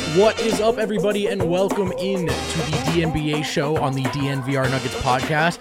What is up, everybody, and welcome in to the DNBA show on the DNVR Nuggets podcast.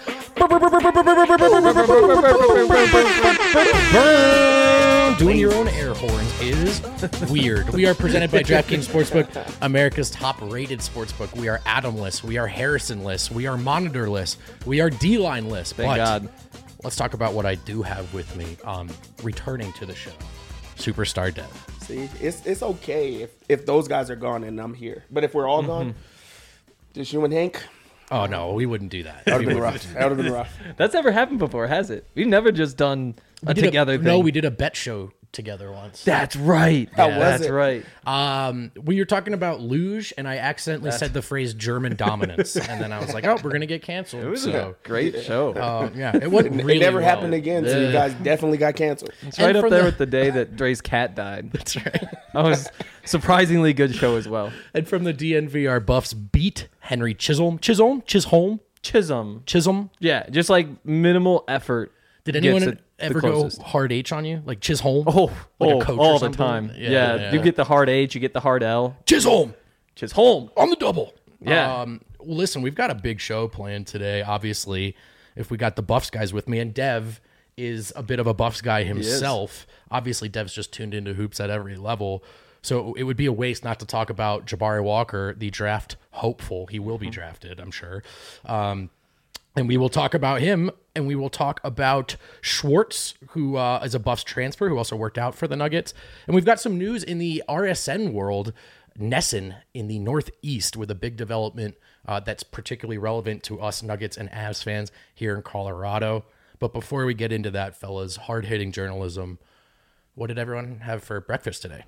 Doing your own air horns is weird. We are presented by DraftKings Sportsbook, America's top-rated sportsbook. We are Adamless. We are Harrisonless. We are Monitorless. We are D-Lineless. Thank God. Let's talk about what I do have with me returning to the show. Superstar Dev. See, it's okay if those guys are gone and I'm here. But if we're all gone, just you and Hank, Oh, no, we wouldn't do that. that would have been rough. That would have been rough. That's never happened before, has it? We've never just done a together thing. No, we did a bet show together once. That's right. How was That's it? right. We were talking about luge, and I accidentally said the phrase German dominance, and then I was like, "Oh, we're gonna get canceled." It was so, a great show. yeah, it went really It never well. happened again, so you guys definitely got canceled. It's right and up from there the- with the day that Dre's cat died. That's right. That was surprisingly good show as well. And from the DNVR Buffs beat Henry Chisholm. Chisholm. Yeah, just like minimal effort. Did gets anyone it the ever go closest. hard H on you, like Chisholm? Oh, like a coach or all the something? time. Yeah, Yeah, you get the hard H, you get the hard L. Chisholm Chisholm. on the double. Yeah. Listen, we've got a big show planned today. Obviously, if we got the Buffs guys with me, and Dev is a bit of a Buffs guy himself. Obviously, Dev's just tuned into hoops at every level. So it would be a waste not to talk about Jabari Walker, the draft hopeful. He will be drafted, I'm sure. And we will talk about him, and we will talk about Schwartz, who is a Buffs transfer, who also worked out for the Nuggets. And we've got some news in the RSN world. Nesson in the Northeast with a big development that's particularly relevant to us Nuggets and Avs fans here in Colorado. But before we get into that, fellas, hard-hitting journalism, what did everyone have for breakfast today?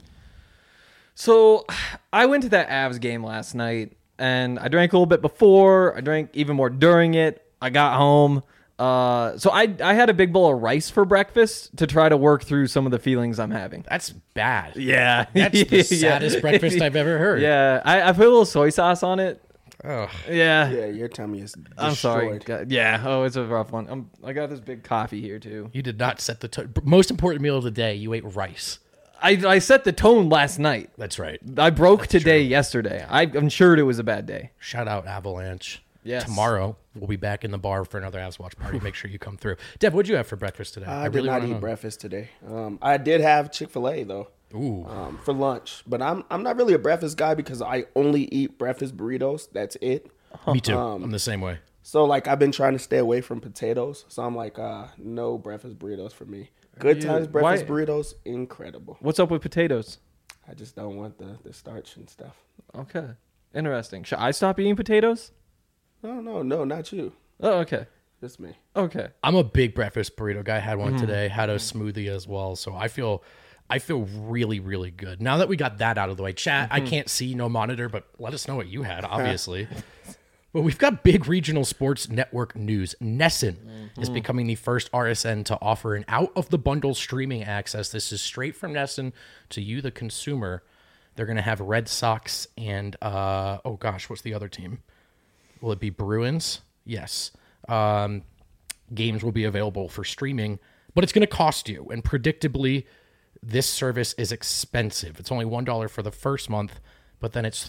So I went to that Avs game last night, and I drank a little bit before. I drank even more during it. I got home. So I had a big bowl of rice for breakfast to try to work through some of the feelings I'm having. That's bad. Yeah. That's the saddest breakfast I've ever heard. Yeah. I put a little soy sauce on it. Ugh. Yeah. Yeah, your tummy is destroyed. I'm sorry. God, yeah. Oh, it's a rough one. I got this big coffee here, too. You did not set the tone. Most important meal of the day, you ate rice. I set the tone last night. That's right. I broke today yesterday. I'm sure it was a bad day. Shout out Avalanche. Yes. Tomorrow, we'll be back in the bar for another Avs Watch party. Make sure you come through. Dev, what'd you have for breakfast today? I did not wanna eat know. breakfast today. I did have Chick-fil-A though. Ooh. For lunch, but I'm not really a breakfast guy because I only eat breakfast burritos. That's it. Me too. I'm the same way. So like I've been trying to stay away from potatoes. So I'm like, no breakfast burritos for me. Good times breakfast burritos, incredible. What's up with potatoes? I just don't want the starch and stuff. Okay. Interesting. Should I stop eating potatoes? No, not you. Oh, okay. Just me. Okay. I'm a big breakfast burrito guy. Had one today. Had a smoothie as well. So I feel really, really good. Now that we got that out of the way, chat, I can't see, no monitor, but let us know what you had, obviously. Well, we've got big regional sports network news. Nesson is becoming the first RSN to offer an out-of-the-bundle streaming access. This is straight from Nesson to you, the consumer. They're going to have Red Sox and, what's the other team? Will it be Bruins? Yes. Games will be available for streaming, but it's going to cost you. And predictably, this service is expensive. It's only $1 for the first month, but then it's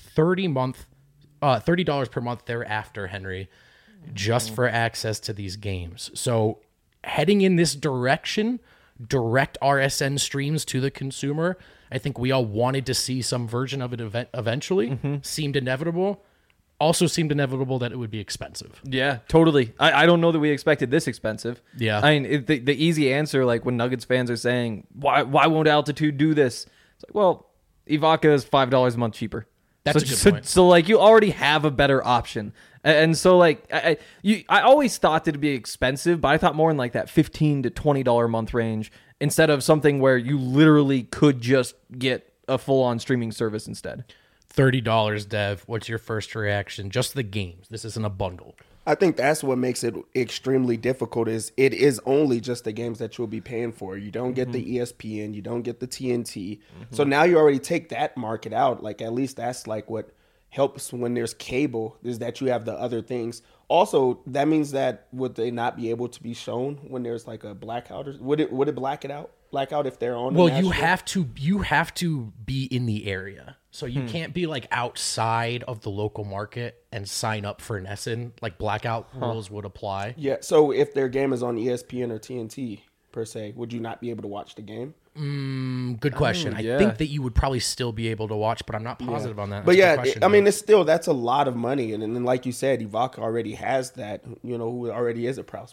$30 per month thereafter, Henry, just for access to these games. So heading in this direction, direct RSN streams to the consumer, I think we all wanted to see some version of it eventually. Seemed inevitable. Also seemed inevitable that it would be expensive. Yeah, totally. I don't know that we expected this expensive. Yeah. I mean, the easy answer, like when Nuggets fans are saying, why won't Altitude do this? It's like, well, Ivanka is $5 a month cheaper. That's a good point. So, like, you already have a better option. And so, like, I always thought that it'd be expensive, but I thought more in, like, that $15 to $20 a month range instead of something where you literally could just get a full-on streaming service instead. $30, Dev. What's your first reaction? Just the games. This isn't a bundle. I think that's what makes it extremely difficult is it is only just the games that you'll be paying for. You don't get the ESPN, you don't get the TNT. So now you already take that market out. Like at least that's like what helps when there's cable is that you have the other things. Also, that means that would they not be able to be shown when there's like a blackout? Or would it blackout if they're on? Well, you have to be in the area, so you can't be like outside of the local market and sign up for NESN. Like blackout rules would apply. Yeah. So if their game is on ESPN or TNT per se, would you not be able to watch the game? Good question. I think that you would probably still be able to watch, but I'm not positive on that. But I mean, that's a lot of money, and then like you said, Ivanka already has that. You know, who already is a proud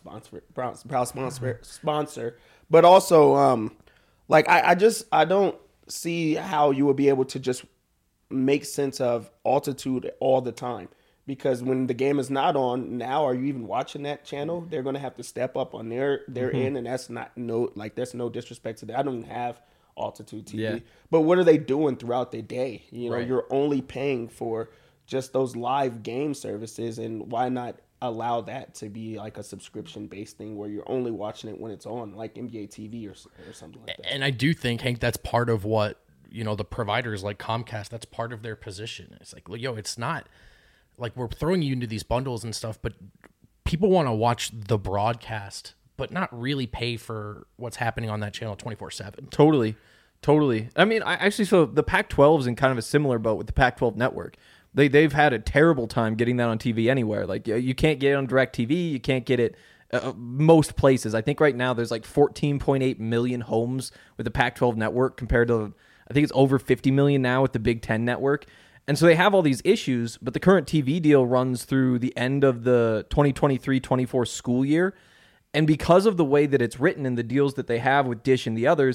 sponsor. But also, like I don't see how you would be able to just make sense of Altitude all the time. Because when the game is not on now, are you even watching that channel? They're going to have to step up on their end, and that's there's no disrespect to that. I don't have Altitude TV, but what are they doing throughout the day? You know, you're only paying for just those live game services, and why not allow that to be like a subscription based thing where you're only watching it when it's on, like NBA TV or something like that. And I do think, Hank, that's part of what, you know, the providers like Comcast, that's part of their position. It's like, yo, it's not like we're throwing you into these bundles and stuff, but people want to watch the broadcast, but not really pay for what's happening on that channel 24/7. Totally. I mean, so the Pac-12 is in kind of a similar boat with the Pac-12 network. They've had a terrible time getting that on TV anywhere. Like, you can't get it on DirecTV. You can't get it most places. I think right now there's like 14.8 million homes with the Pac-12 network compared to, I think it's over 50 million now with the Big Ten network. And so they have all these issues, but the current TV deal runs through the end of the 2023-24 school year. And because of the way that it's written and the deals that they have with Dish and the others,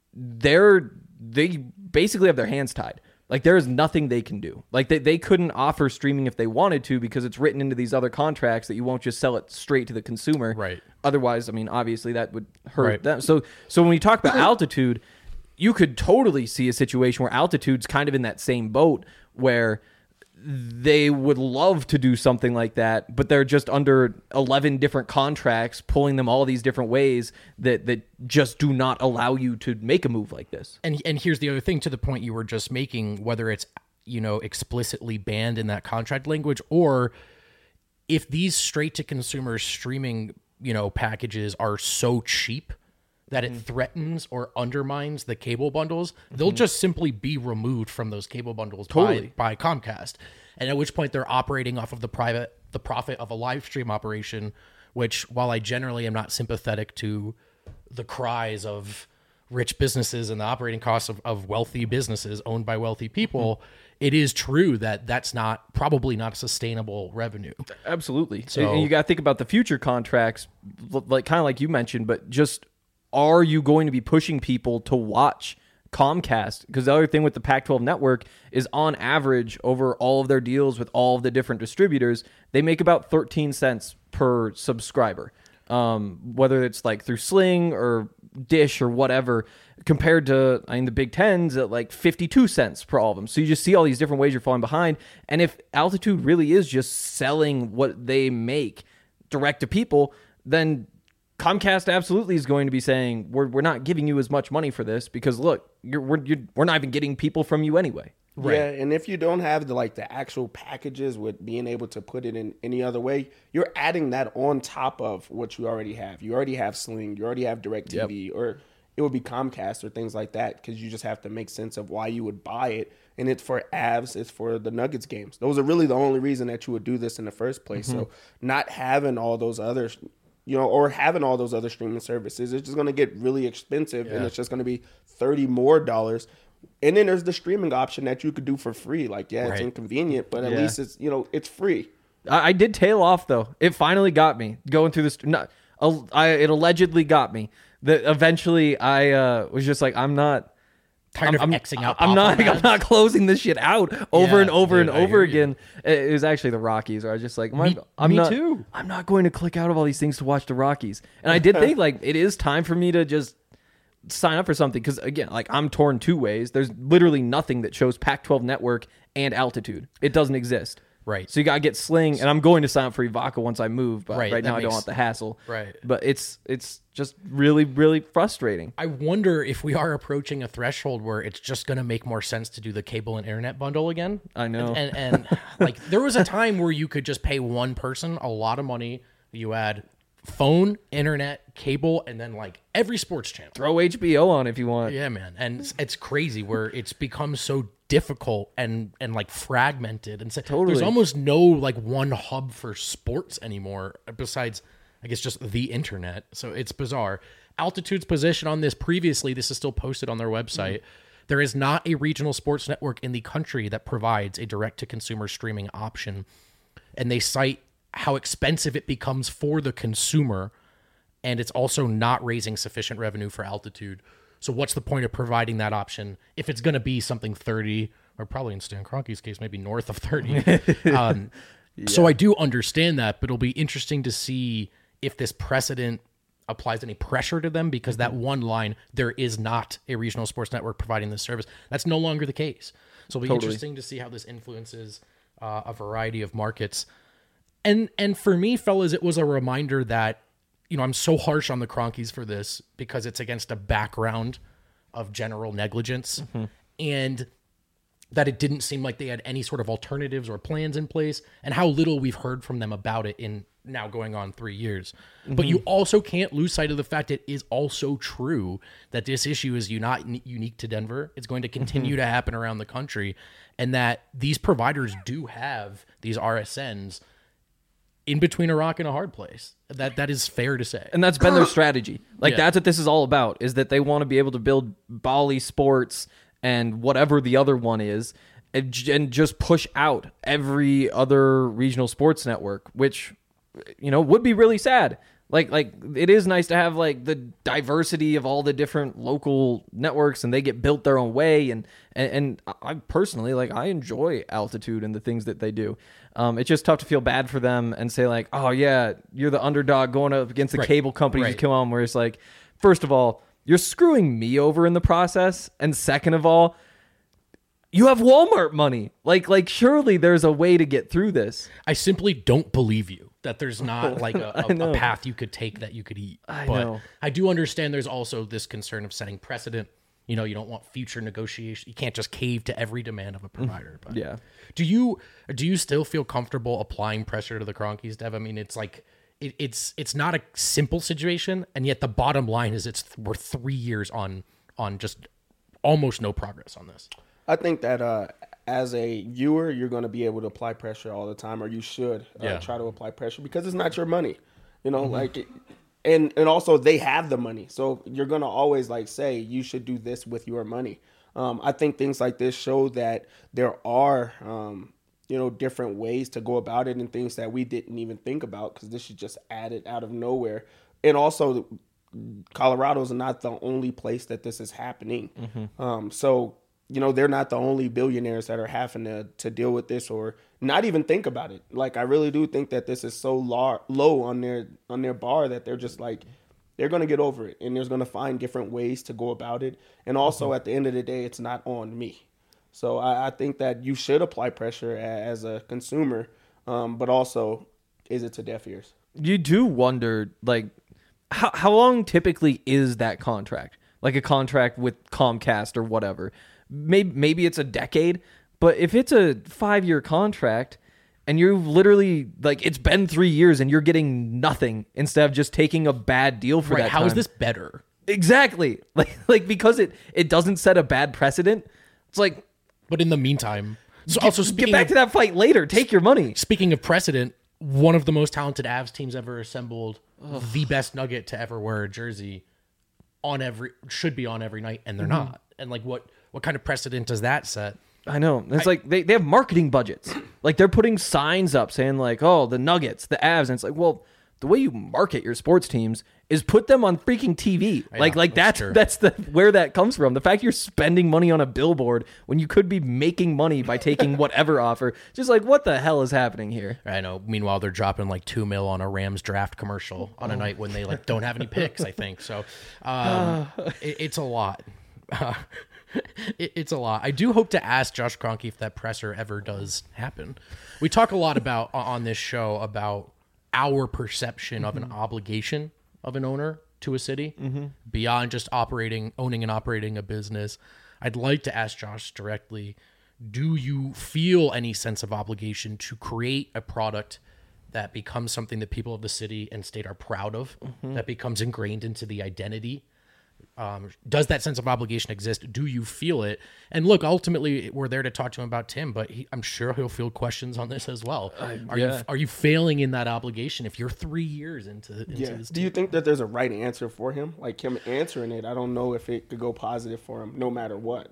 they basically have their hands tied. Like, there is nothing they can do. Like, they couldn't offer streaming if they wanted to because it's written into these other contracts that you won't just sell it straight to the consumer. Right. Otherwise, I mean, obviously that would hurt them. So when we talk about Altitude, you could totally see a situation where Altitude's kind of in that same boat where they would love to do something like that, but they're just under 11 different contracts, pulling them all these different ways that just do not allow you to make a move like this. And here's the other thing, to the point you were just making, whether it's, you know, explicitly banned in that contract language, or if these straight to consumer streaming, you know, packages are so cheap that it threatens or undermines the cable bundles, they'll just simply be removed from those cable bundles by Comcast. And at which point they're operating off of the profit of a live stream operation, which, while I generally am not sympathetic to the cries of rich businesses and the operating costs of wealthy businesses owned by wealthy people, it is true that that's probably not a sustainable revenue. Absolutely. So, and you got to think about the future contracts, like kind of like you mentioned, but just, are you going to be pushing people to watch Comcast? Because the other thing with the Pac-12 network is, on average, over all of their deals with all of the different distributors, they make about 13 cents per subscriber. Whether it's like through Sling or Dish or whatever, compared to, I mean, the Big Ten's at like 52 cents per all of them. So you just see all these different ways you're falling behind. And if Altitude really is just selling what they make direct to people, then Comcast absolutely is going to be saying, we're not giving you as much money for this because, look, we're not even getting people from you anyway. Right. Yeah, and if you don't have the actual packages with being able to put it in any other way, you're adding that on top of what you already have. You already have Sling, you already have DirecTV, or it would be Comcast or things like that, because you just have to make sense of why you would buy it. And it's for Avs, it's for the Nuggets games. Those are really the only reason that you would do this in the first place. So not having all those others, or having all those other streaming services, it's just going to get really expensive, and it's just going to be $30 more. And then there's the streaming option that you could do for free. Like, it's inconvenient, but at least it's, it's free. I did tail off, though. It finally got me going through this. It allegedly got me. That eventually I was just like, I'm not. Tired of Xing out. I'm not closing this shit out over and over and over again. It was actually the Rockies, where I was just like, I'm not too. I'm not going to click out of all these things to watch the Rockies. And I did think, like, it is time for me to just sign up for something, because, again, like, I'm torn two ways. There's literally nothing that shows Pac-12 network and Altitude. It doesn't exist. Right. So you got to get Sling, and I'm going to sign up for Evoca once I move, but Right, right now that I don't makes- want the hassle. Right. But it's just really, really frustrating. I wonder if we are approaching a threshold where it's just going to make more sense to do the cable and internet bundle again. I know. And like there was a time where you could just pay one person a lot of money. You had phone, internet, cable, and then like every sports channel. Throw HBO on if you want. Yeah, man. And it's crazy where it's become so difficult and like fragmented. And so Totally. there's almost no like one hub for sports anymore besides, I guess, just the internet. So it's bizarre. Altitude's position on this previously, this is still posted on their website. There is not a regional sports network in the country that provides a direct-to-consumer streaming option. And they cite how expensive it becomes for the consumer, and it's also not raising sufficient revenue for Altitude. So what's the point of providing that option if it's going to be something 30, or probably in Stan Kroenke's case, maybe north of 30? So I do understand that, but it'll be interesting to see if this precedent applies any pressure to them, because that one line, there is not a regional sports network providing this service, that's no longer the case. So it'll be interesting to see how this influences a variety of markets. And for me, fellas, it was a reminder that, you know, I'm so harsh on the Kroenkes for this because it's against a background of general negligence, and that it didn't seem like they had any sort of alternatives or plans in place, and how little we've heard from them about it in now going on 3 years. But you also can't lose sight of the fact it is also true that this issue is not unique to Denver. It's going to continue to happen around the country, and that these providers do have these RSNs in between a rock and a hard place. That is fair to say. And that's been their strategy. Like, Yeah. that's what this is all about, is that they want to be able to build Bally Sports and whatever the other one is, and just push out every other regional sports network, which, you know, would be really sad. Like it is nice to have like the diversity of all the different local networks, and they get built their own way. And I personally, like, I enjoy Altitude and the things that they do. It's just tough to feel bad for them and say like, oh yeah, you're the underdog going up against the cable companies Right. to come on. Where it's like, first of all, you're screwing me over in the process, and second of all, you have Walmart money. Like surely there's a way to get through this. I simply don't believe you that there's not like a know. path you could take that you could eat. I But know. I do understand there's also this concern of setting precedent. You know, you don't want future negotiation. You can't just cave to every demand of a provider. But Yeah. do you still feel comfortable applying pressure to the Kroenkes, Dev? I mean, it's like it's not a simple situation, and yet the bottom line is we're 3 years on just almost no progress on this. I think that as a viewer, you're going to be able to apply pressure all the time, or you should try to apply pressure, because it's not your money, you know, like, and also they have the money. So you're going to always like say you should do this with your money. I think things like this show that there are, you know, different ways to go about it, and things that we didn't even think about, because this is just added out of nowhere. And also, Colorado is not the only place that this is happening. So, you know, they're not the only billionaires that are having to deal with this or not even think about it. Like, I really do think that this is so low on their bar that they're just like, they're going to get over it, and there's going to find different ways to go about it. And also, at the end of the day, it's not on me. So I think that you should apply pressure as a consumer, but also, is it to deaf ears? You do wonder, like, how long typically is that contract? Like a contract with Comcast or whatever. Maybe it's a decade, but if it's a 5-year contract and you're literally, like, it's been 3 years and you're getting nothing instead of just taking a bad deal for Right? that How is time. this better? Exactly. Like because it doesn't set a bad precedent. It's like, But in the meantime, so also get speaking back of, to that fight later. Take your money. speaking of precedent, one of the most talented Avs teams ever assembled, the best Nugget to ever wear a jersey should be on every night, and they're not. And like, what kind of precedent does that set? I know. It's like they have marketing budgets. Like, they're putting signs up saying like, oh, the Nuggets, the Avs. And it's like, well, the way you market your sports teams is put them on freaking TV. Like that's true. that's where that comes from. The fact you're spending money on a billboard when you could be making money by taking whatever offer. Just like, what the hell is happening here? I know. Meanwhile, they're dropping like $2 million on a Rams draft commercial on a night when they like don't have any picks, I think. So it's a lot. It's a lot. I do hope to ask Josh Kroenke if that presser ever does happen. We talk a lot about on this show about our perception of an obligation of an owner to a city beyond just owning and operating a business. I'd like to ask Josh directly, do you feel any sense of obligation to create a product that becomes something that people of the city and state are proud of, that becomes ingrained into the identity? Does that sense of obligation exist? Do you feel it? And look, ultimately, we're there to talk to him about Tim, but I'm sure he'll field questions on this as well. Are you failing in that obligation if you're 3 years into this? Do you think that there's a right answer for him? Like him answering it, I don't know if it could go positive for him, no matter what.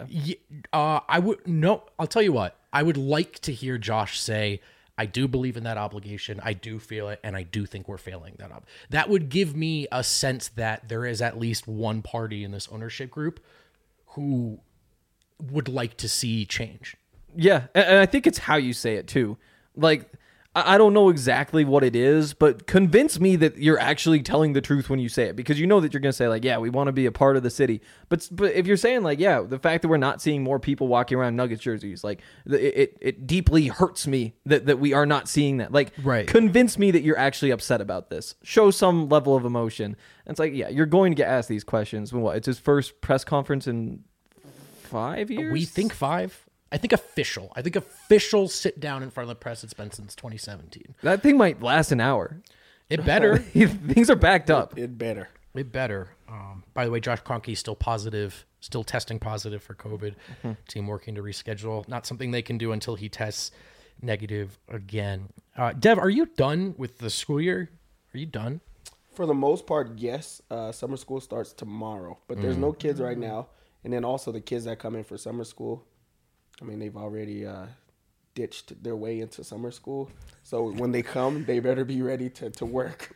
I would no. I'll tell you what. I would like to hear Josh say, I do believe in that obligation. I do feel it, and I do think we're failing that up. That would give me a sense that there is at least one party in this ownership group who would like to see change. Yeah, and I think it's how you say it too. Like, I don't know exactly what it is, but convince me that you're actually telling the truth when you say it, because you know that you're going to say like, yeah, we want to be a part of the city. But if you're saying like, yeah, the fact that we're not seeing more people walking around Nuggets jerseys, like it deeply hurts me that we are not seeing that. Like, right. Convince me that you're actually upset about this. Show some level of emotion. And it's like, yeah, you're going to get asked these questions when what? It's his first press conference in 5 years? We think 5. I think official sit down in front of the press it's been since 2017. That thing might last an hour. It better. Things are backed up. It better. It better. By the way, Josh Kroenke is still testing positive for COVID. Team working to reschedule. Not something they can do until he tests negative again. Dev, are you done with the school year? Are you done? For the most part, yes. Summer school starts tomorrow, but there's no kids right now. And then also the kids that come in for summer school, I mean, they've already ditched their way into summer school. So when they come, they better be ready to work.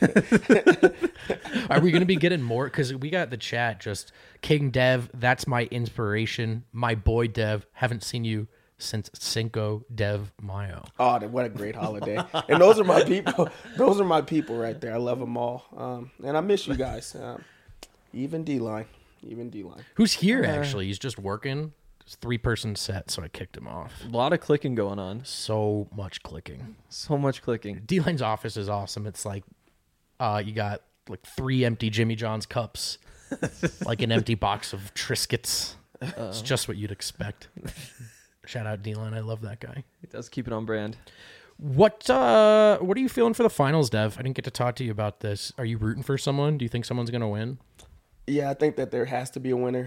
Are we going to be getting more? Because we got the chat just, King Dev, that's my inspiration. My boy Dev, haven't seen you since Cinco de Mayo. Oh, what a great holiday. And those are my people. Those are my people right there. I love them all. And I miss you guys. Even D-Line. Who's here, actually? He's just working. It's 3-person set, so I kicked him off. A lot of clicking going on. So much clicking. D-Line's office is awesome. It's like you got like 3 empty Jimmy John's cups, like an empty box of Triscuits. It's just what you'd expect. Shout out D-Line. I love that guy. He does keep it on brand. What are you feeling for the finals, Dev? I didn't get to talk to you about this. Are you rooting for someone? Do you think someone's going to win? Yeah, I think that there has to be a winner.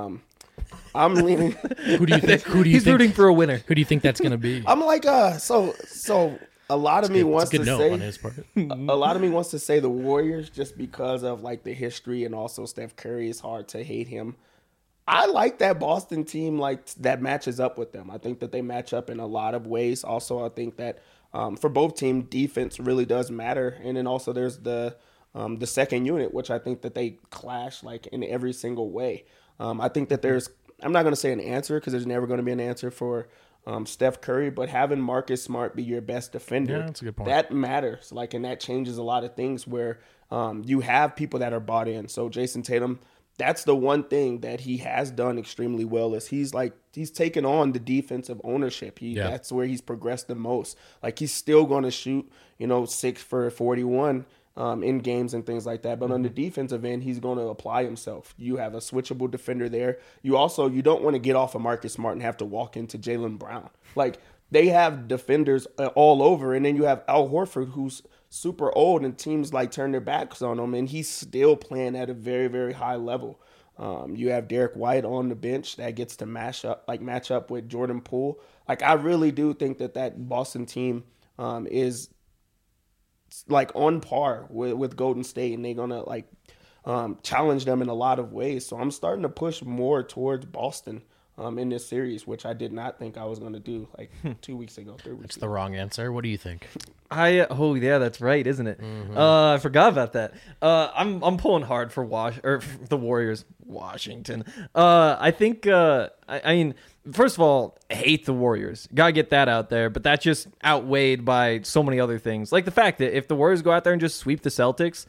I'm leaning. Who do you think? He's rooting for a winner. Who do you think that's going to be? I'm like, so a lot of me wants to say on his part. A lot of me wants to say the Warriors just because of like the history and also Steph Curry. It's hard to hate him. I like that Boston team, like that matches up with them. I think that they match up in a lot of ways. Also, I think that for both teams, defense really does matter. And then also there's the second unit, which I think that they clash like in every single way. I think that I'm not going to say an answer because there's never going to be an answer for Steph Curry, but having Marcus Smart be your best defender, yeah, that's a good point. That matters. Like, and that changes a lot of things where you have people that are bought in. So Jason Tatum, that's the one thing that he has done extremely well is he's taken on the defensive ownership. That's where he's progressed the most. Like, he's still going to shoot, 6 for 41 in games and things like that. But on the defensive end, he's going to apply himself. You have a switchable defender there. You don't want to get off of Marcus Smart and have to walk into Jaylen Brown. Like, they have defenders all over. And then you have Al Horford, who's super old, and teams like turn their backs on him, and he's still playing at a very, very high level. You have Derek White on the bench that gets to match up with Jordan Poole. Like, I really do think that Boston team is like on par with Golden State, and they're gonna challenge them in a lot of ways. So I'm starting to push more towards Boston in this series, which I did not think I was going to do 2 weeks ago, 3 weeks That's ago. the wrong answer. What do you think? Yeah, that's right, isn't it? Mm-hmm. I forgot about that. I'm pulling hard for the Warriors. Washington. I think. I mean, first of all, I hate the Warriors. Gotta get that out there. But that's just outweighed by so many other things, like the fact that if the Warriors go out there and just sweep the Celtics,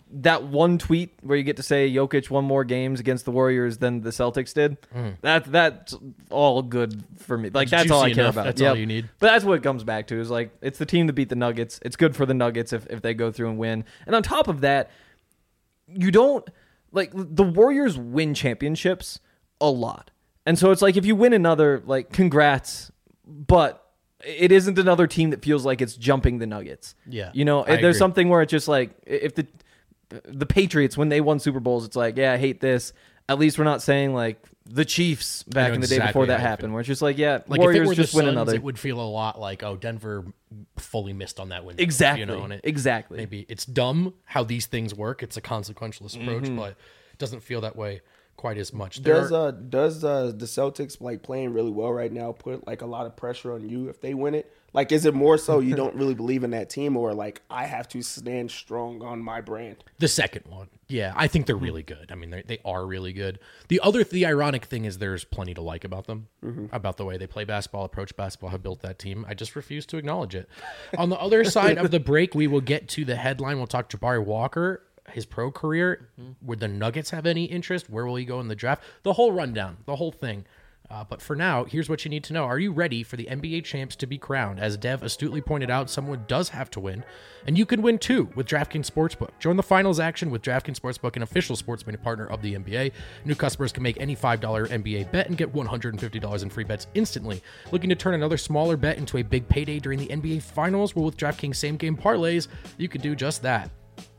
that one tweet where you get to say Jokic won more games against the Warriors than the Celtics did, that's all good for me. Like, that's all I care about. That's all you need. But that's what it comes back to, is like, it's the team that beat the Nuggets. It's good for the Nuggets if they go through and win. And on top of that, you don't, like, the Warriors win championships a lot. And so it's like, if you win another, like, congrats, but it isn't another team that feels like it's jumping the Nuggets. Yeah. You know, there's something where it's just like, if the Patriots, when they won Super Bowls, it's like, yeah, I hate this. At least we're not saying like the Chiefs back in the day before that happened, where it's just like, yeah, like Warriors if it were just the win Suns, another. It would feel a lot like, oh, Denver fully missed on that window. Exactly. You know, and Exactly. Maybe it's dumb how these things work. It's a consequential approach, but it doesn't feel that way quite as much. Does the Celtics, like, playing really well right now, put like a lot of pressure on you if they win it? Like, is it more so you don't really believe in that team, or like, I have to stand strong on my brand? The second one. Yeah, I think they're really good. I mean, they are really good. The ironic thing is there's plenty to like about them, about the way they play basketball, approach basketball, have built that team. I just refuse to acknowledge it. On the other side of the break, we will get to the headline. We'll talk Jabari Walker, his pro career. Would the Nuggets have any interest? Where will he go in the draft? The whole rundown, the whole thing. But for now, here's what you need to know. Are you ready for the NBA champs to be crowned? As Dev astutely pointed out, someone does have to win. And you can win too with DraftKings Sportsbook. Join the finals action with DraftKings Sportsbook, an official sports betting partner of the NBA. New customers can make any $5 NBA bet and get $150 in free bets instantly. Looking to turn another smaller bet into a big payday during the NBA finals? Well, with DraftKings same game parlays, you can do just that.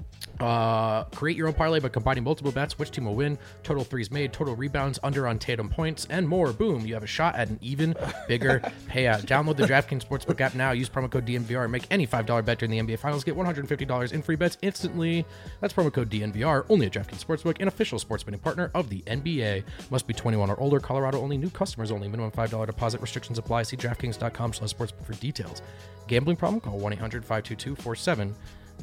Create your own parlay by combining multiple bets. Which team will win? Total threes made, total rebounds, under on Tatum points, and more. Boom! You have a shot at an even bigger payout. Download the DraftKings Sportsbook app now. Use promo code DNVR and make any $5 bet during the NBA Finals. Get $150 in free bets instantly. That's promo code DNVR. Only at DraftKings Sportsbook, an official sports betting partner of the NBA. Must be 21 or older. Colorado only. New customers only. Minimum $5 deposit. Restrictions apply. See DraftKings.com/sportsbook for details. Gambling problem? Call 1-800-522-4700.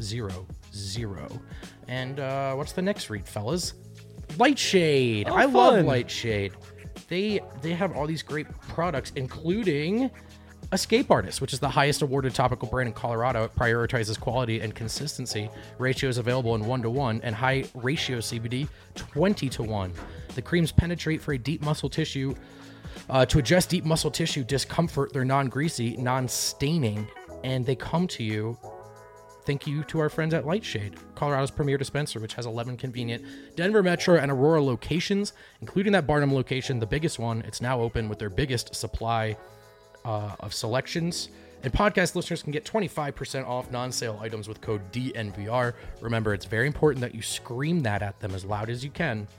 And what's the next read, fellas? Lightshade. I love Lightshade. They have all these great products, including Escape Artist, which is the highest awarded topical brand in Colorado. It prioritizes quality and consistency. Ratios available in 1-to-1 and high ratio CBD 20-to-1. The creams penetrate for a deep muscle tissue to address deep muscle tissue discomfort. They're non-greasy, non-staining, and they come to you. Thank you to our friends at Lightshade, Colorado's premier dispenser, which has 11 convenient Denver Metro and Aurora locations, including that Barnum location, the biggest one. It's now open with their biggest supply of selections. And podcast listeners can get 25% off non-sale items with code DNVR. Remember, it's very important that you scream that at them as loud as you can.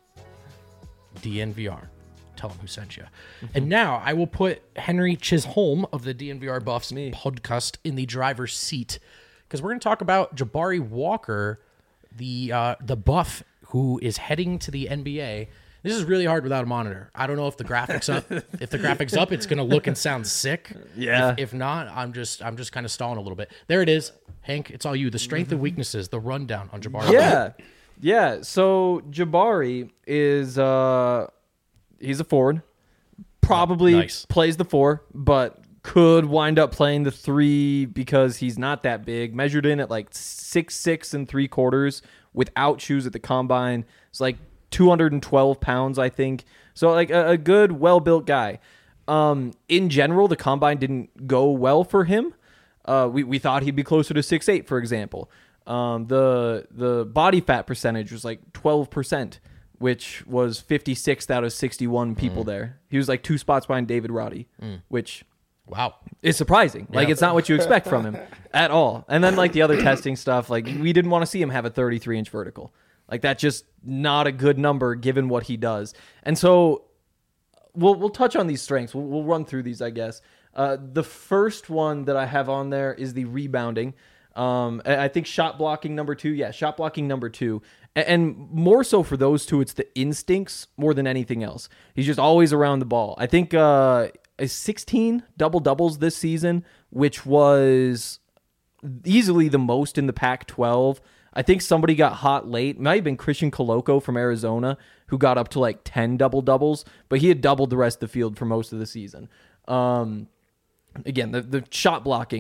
DNVR. Tell them who sent you. And now I will put Henry Chisholm of the DNVR Buffs podcast in the driver's seat, because we're going to talk about Jabari Walker, the buff who is heading to the NBA. This is really hard without a monitor. I don't know if the graphics up. If the graphics up, it's going to look and sound sick. Yeah. If not, I'm just kind of stalling a little bit. There it is, Hank. It's all you. The strength and weaknesses. The rundown on Jabari. Yeah. So Jabari is he's a forward. Probably plays the 4, but could wind up playing the 3 because he's not that big. Measured in at like 6'6" 3/4 without shoes at the combine. It's like 212 pounds, I think. So like a good, well-built guy. In general, the combine didn't go well for him. We thought he'd be closer to 6'8", for example. The body fat percentage was like 12%, which was 56th out of 61 people there. He was like 2 spots behind David Roddy, which... Wow. It's surprising. Like, it's not what you expect from him at all. And then, like, the other testing stuff, like, we didn't want to see him have a 33-inch vertical. Like, that's just not a good number given what he does. And so we'll touch on these strengths. We'll run through these, I guess. The first one that I have on there is the rebounding. I think shot blocking number 2. Yeah, shot blocking number 2. And more so for those two, it's the instincts more than anything else. He's just always around the ball. I think... 16 double-doubles this season, which was easily the most in the Pac-12. I think somebody got hot late. It might have been Christian Coloco from Arizona, who got up to like 10 double-doubles, but he had doubled the rest of the field for most of the season. Again, the shot blocking,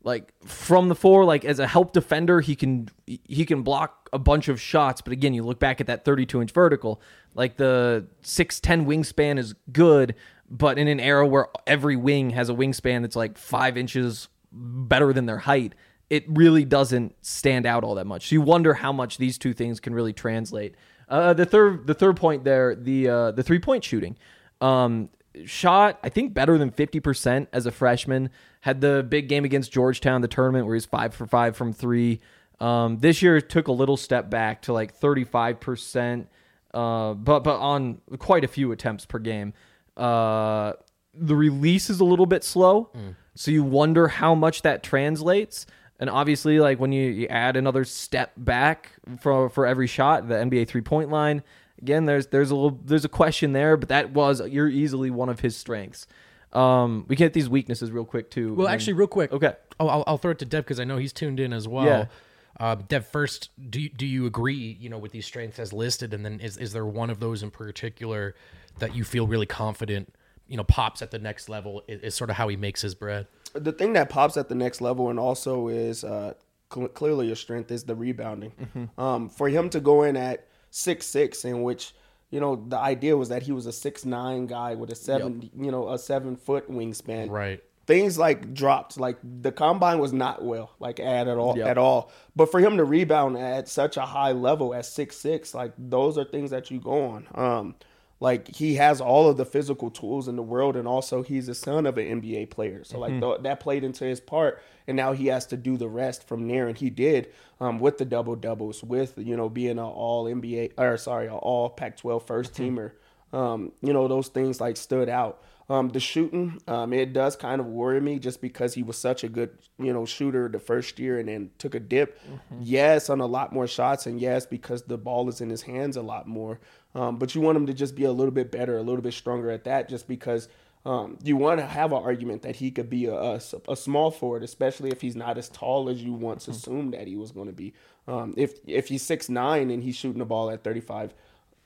Like from the 4, like as a help defender, he can block a bunch of shots. But again, you look back at that 32-inch vertical, like the 6'10" wingspan is good, but in an era where every wing has a wingspan that's like 5 inches better than their height, it really doesn't stand out all that much. So you wonder how much these two things can really translate. The third point there, the 3-point shooting. Shot, I think, better than 50% as a freshman. Had the big game against Georgetown, the tournament where he's 5 for 5 from 3. This year took a little step back to like 35%, but on quite a few attempts per game. The release is a little bit slow, so you wonder how much that translates. And obviously, like when you add another step back for every shot, the NBA 3-point line. Again, there's a question there, but you're easily one of his strengths. We can hit these weaknesses real quick too. Well, actually, real quick. Okay. I'll throw it to Dev because I know he's tuned in as well. Yeah. Dev, first, do you agree, with these strengths as listed, and then is there one of those in particular that you feel really confident, pops at the next level? Is sort of how he makes his bread. The thing that pops at the next level and also is clearly a strength is the rebounding. Mm-hmm. For him to go in at 6'6", in which the idea was that he was a 6'9" guy with a 7-foot wingspan. Right. Things like dropped, like the combine was not well, like at all. But for him to rebound at such a high level at 6'6", like those are things that you go on. Like he has all of the physical tools in the world, and also he's the son of an NBA player. So like that played into his part, and now he has to do the rest from there, and he did with the double doubles, with being an all NBA an all Pac-12 first teamer. Those things like stood out. The shooting, it does kind of worry me just because he was such a good shooter the first year and then took a dip. Yes, on a lot more shots, and yes, because the ball is in his hands a lot more. But you want him to just be a little bit better, a little bit stronger at that, just because you want to have an argument that he could be a small forward, especially if he's not as tall as you once assumed that he was going to be. If he's 6'9" and he's shooting the ball at 35,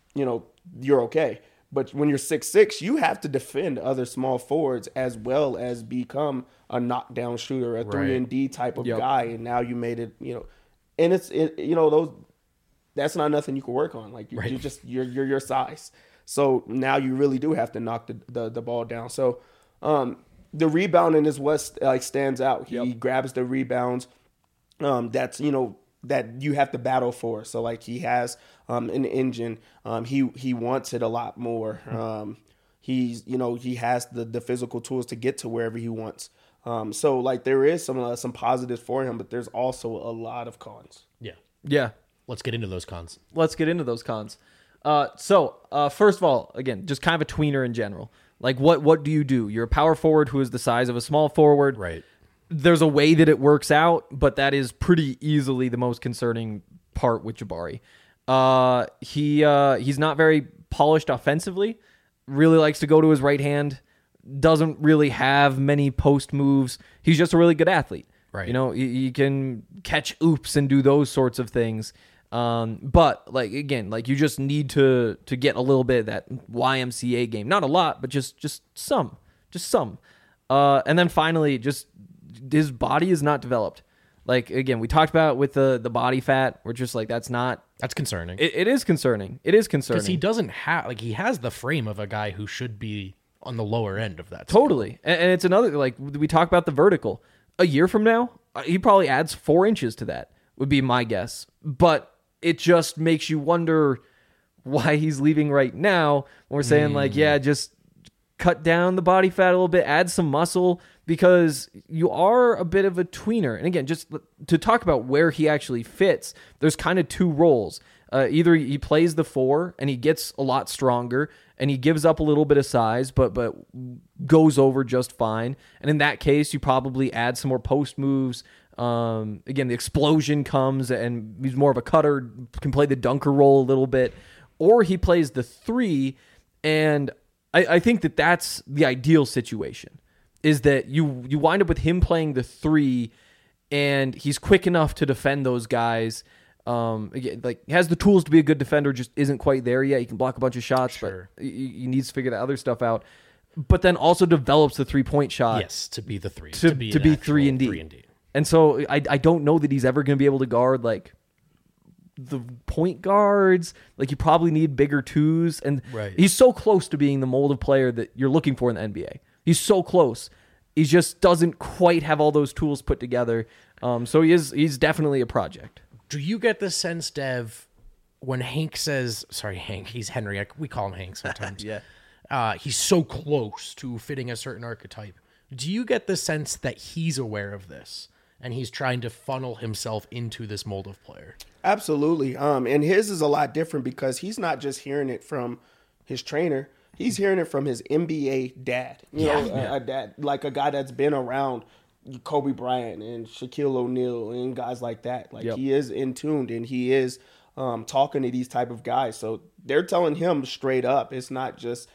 you're okay. But when you're 6'6", you have to defend other small forwards as well as become a knockdown shooter, a 3-and-D type of guy. And now you made it, and those. That's not nothing you can work on. Like you're your size. So now you really do have to knock the ball down. So the rebounding is what like stands out. He grabs the rebounds. That's that you have to battle for. So like he has an engine. He wants it a lot more. He has the physical tools to get to wherever he wants. So like there is some positives for him, but there's also a lot of cons. Yeah. Let's get into those cons. So first of all, again, just kind of a tweener in general. Like, what do you do? You're a power forward who is the size of a small forward. Right. There's a way that it works out, but that is pretty easily the most concerning part with Jabari. He's not very polished offensively. Really likes to go to his right hand. Doesn't really have many post moves. He's just a really good athlete. Right. He can catch oops and do those sorts of things. But like again, like you just need to get a little bit of that YMCA game. Not a lot, but just some. And then finally, just his body is not developed. Like again, we talked about with the body fat. We're just like that's concerning. It is concerning. It is concerning because he doesn't have he has the frame of a guy who should be on the lower end of that. Totally, and it's another like we talk about the vertical. A year from now, he probably adds 4 inches to that. Would be my guess, but it just makes you wonder why he's leaving right now. We're saying just cut down the body fat a little bit, add some muscle, because you are a bit of a tweener. And again, just to talk about where he actually fits, there's kind of 2 roles. Either he plays the 4 and he gets a lot stronger and he gives up a little bit of size, but goes over just fine. And in that case, you probably add some more post moves. Again, the explosion comes and he's more of a cutter, can play the dunker role a little bit. Or he plays the 3, and I think that's the ideal situation, is that you wind up with him playing the 3 and he's quick enough to defend those guys. Again, like has the tools to be a good defender, just isn't quite there yet. He can block a bunch of shots, but he needs to figure that other stuff out. But then also develops the 3-point shot. Yes, to be the 3. To be 3-and-D. And so I don't know that he's ever going to be able to guard like the point guards. Like you probably need bigger twos, and he's so close to being the mold of player that you're looking for in the NBA. He's so close. He just doesn't quite have all those tools put together. So he's definitely a project. Do you get the sense, Dev, when Hank says, sorry, Hank, he's Henry. We call him Hank sometimes. He's so close to fitting a certain archetype. Do you get the sense that he's aware of this and he's trying to funnel himself into this mold of player? Absolutely. And his is a lot different because he's not just hearing it from his trainer. He's hearing it from his NBA dad. A dad, like a guy that's been around Kobe Bryant and Shaquille O'Neal and guys like that. Like he is in tuned and he is talking to these type of guys. So they're telling him straight up. It's not just,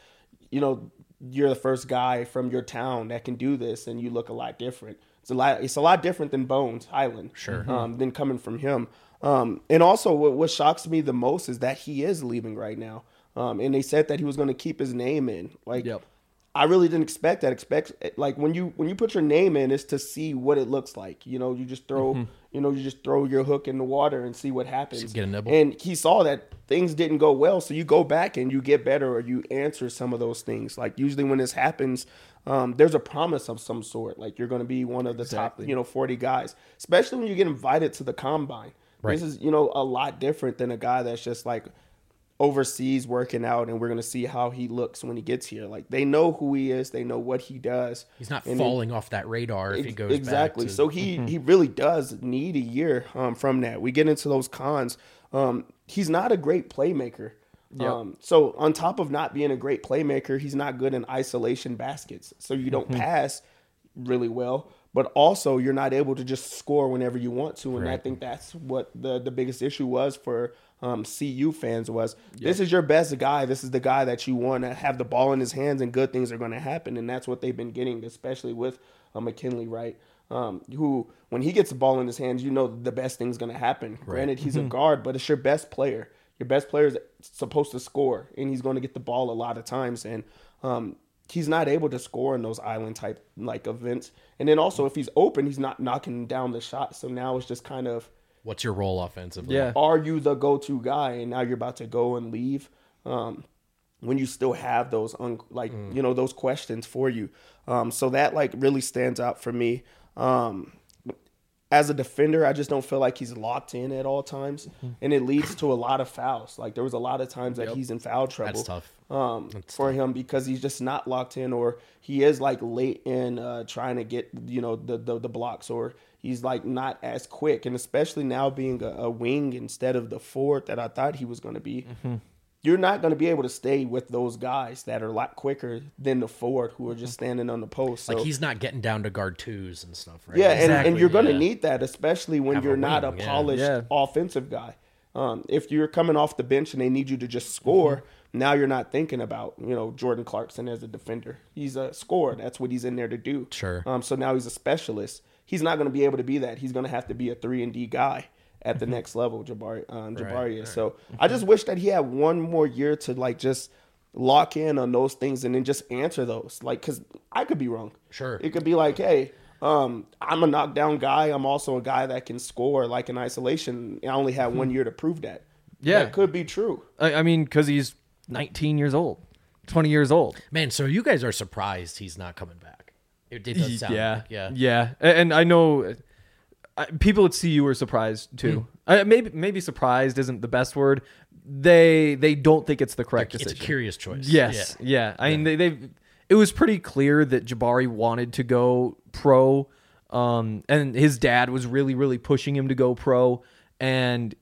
you're the first guy from your town that can do this and you look a lot different. It's a lot different than Bones Highland. Sure. Than coming from him. And also what shocks me the most is that he is leaving right now. And they said that he was going to keep his name in. I really didn't expect that. Like when you put your name in, it's to see what it looks like. You just throw your hook in the water and see what happens. Get a nibble. And he saw that things didn't go well, so you go back and you get better or you answer some of those things. Like usually when this happens, there's a promise of some sort. Like you're going to be one of the top 40 guys, especially when you get invited to the combine. Right. This is a lot different than a guy that's just like overseas working out and we're going to see how he looks when he gets here. Like they know who he is, they know what he does. He's not falling off that radar if he goes exactly back to... So he really does need a year from that. We get into those cons. He's not a great playmaker. So on top of not being a great playmaker, he's not good in isolation baskets. So you don't pass really well, but also you're not able to just score whenever you want to. And I think that's what the biggest issue was for CU fans was this is your best guy. This is the guy that you want to have the ball in his hands and good things are going to happen. And that's what they've been getting, especially with McKinley Wright, who when he gets the ball in his hands, the best thing's going to happen. Right. Granted, he's a guard, but it's your best player. Your best player is supposed to score, and he's going to get the ball a lot of times. And he's not able to score in those island type like events. And then also if he's open, he's not knocking down the shot. So now it's just kind of, what's your role offensively? Yeah. Are you the go-to guy? And now you're about to go and leave when you still have those those questions for you. So that like really stands out for me. As a defender, I just don't feel like he's locked in at all times, and it leads to a lot of fouls. Like there was a lot of times that he's in foul trouble. That's tough. For him because he's just not locked in, or he is like late in trying to get the blocks, or he's like not as quick. And especially now being a wing instead of the forward that I thought he was going to be. You're not going to be able to stay with those guys that are a lot quicker than the forward who are just standing on the post. So, like he's not getting down to guard twos and stuff, right? Yeah, and you're going to need that, especially when you're not a polished offensive guy. If you're coming off the bench and they need you to just score, now you're not thinking about, Jordan Clarkson as a defender. He's a scorer. That's what he's in there to do. Sure. So now he's a specialist. He's not going to be able to be that. He's going to have to be a 3-and-D guy at the next level, Jabari is. So I just wish that he had one more year to like just lock in on those things and then just answer those. Like, because I could be wrong. Sure. It could be like, hey, I'm a knockdown guy. I'm also a guy that can score like in isolation. I only have 1 year to prove that. Yeah. That could be true. I mean, because he's 19 years old, 20 years old. Man, so you guys are surprised he's not coming back. It does sound like, Yeah. And I know... people at CU were surprised too. Maybe surprised isn't the best word. They don't think it's the correct decision. It's a curious choice. Yes, yeah. I mean, it was pretty clear that Jabari wanted to go pro, and his dad was really, really pushing him to go pro. And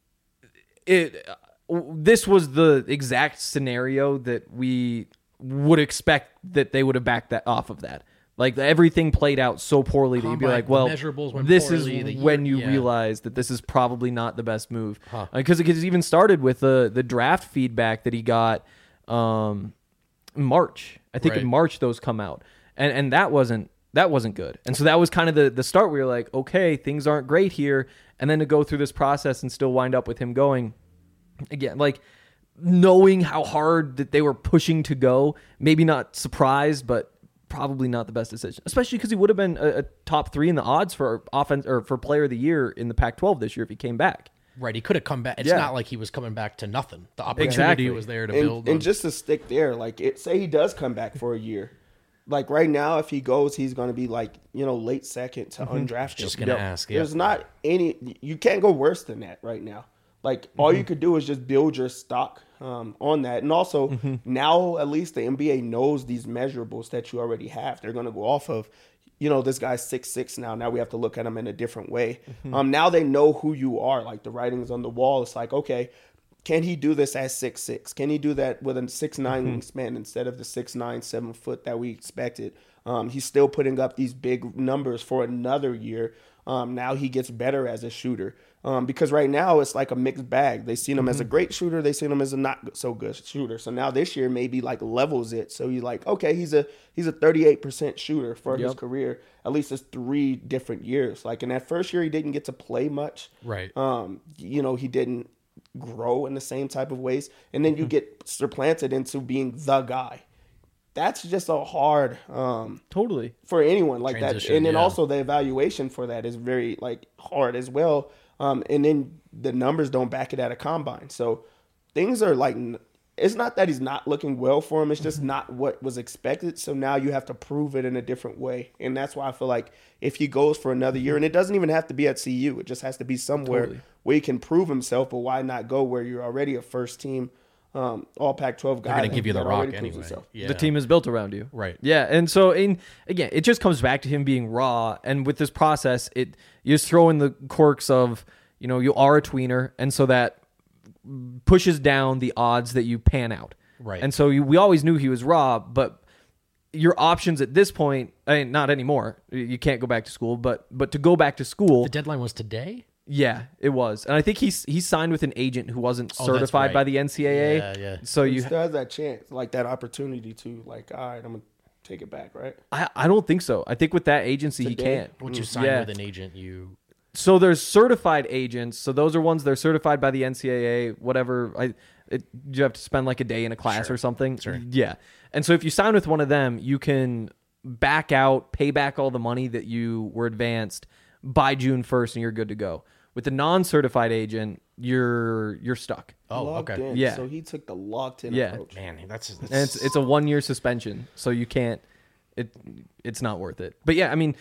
this was the exact scenario that we would expect that they would have backed that off of that. Like everything played out so poorly that you'd be like, well, this is when you realize that this is probably not the best move. Because it even started with the draft feedback that he got March. I think in March those come out. And that wasn't good. And so that was kind of the start where you're like, okay, things aren't great here. And then to go through this process and still wind up with him going, again, like knowing how hard that they were pushing to go, maybe not surprised, but probably not the best decision, especially because he would have been a top 3 in the odds for offense or for player of the year in the Pac-12 this year if he came back. Right, he could have come back. It's not like he was coming back to nothing. The opportunity Exactly. was there to build. And just to stick there, like say he does come back for a year. Like right now, if he goes, he's going to be like, late second to undrafted. Just going to ask. Yeah. There's not you can't go worse than that right now. Like all you could do is just build your stock on that. And also now at least the NBA knows these measurables that you already have. They're going to go off of, this guy's 6'6" now. Now we have to look at him in a different way. Now they know who you are. Like the writing's on the wall. It's like, okay, can he do this at 6'6"? Can he do that with a 6'9" wingspan instead of the 6'9", 7 foot that we expected? He's still putting up these big numbers for another year. Now he gets better as a shooter. Because right now it's like a mixed bag. They seen him as a great shooter. They seen him as a not so good shooter. So now this year maybe like levels it. So you're like, okay, he's a 38% shooter for his career. At least it's 3 different years. Like in that first year, he didn't get to play much. Right. He didn't grow in the same type of ways. And then you get supplanted into being the guy. That's just a hard Totally for anyone like transition, that. And then also the evaluation for that is very like hard as well. And then the numbers don't back it at a combine. So things are like, it's not that he's not looking well for him. It's just not what was expected. So now you have to prove it in a different way. And that's why I feel like if he goes for another year, and it doesn't even have to be at CU, it just has to be somewhere where he can prove himself. But why not go where you're already a first team all Pac-12 guy? They're going to give you the rock anyway. Yeah. the team is built around you. Right. Yeah. And so again, it just comes back to him being raw. And with this process, you just throw in the quirks of, you are a tweener. And so that pushes down the odds that you pan out. Right. And so we always knew he was raw, but your options at this point, not anymore. You can't go back to school, but to go back to school. The deadline was today? Yeah, it was. And I think he signed with an agent who wasn't Oh, certified right. by the NCAA. Yeah. So He you still has that chance, like that opportunity to like, all right, I'm going to take it back, right? I don't think so. I think with that agency he Today? can't. Once you sign Yeah. with an agent, you... So there's certified agents. So those are ones they're certified by the NCAA, whatever. You have to spend like a day in a class or something. Sure. Yeah. And so if you sign with one of them, you can back out, pay back all the money that you were advanced by June 1st and you're good to go. With the non-certified agent, you're stuck. Oh, Locked okay. in. Yeah. So he took the locked in Yeah. approach. Man, that's And it's a 1-year suspension, so you can't. It's not worth it. But yeah, I mean,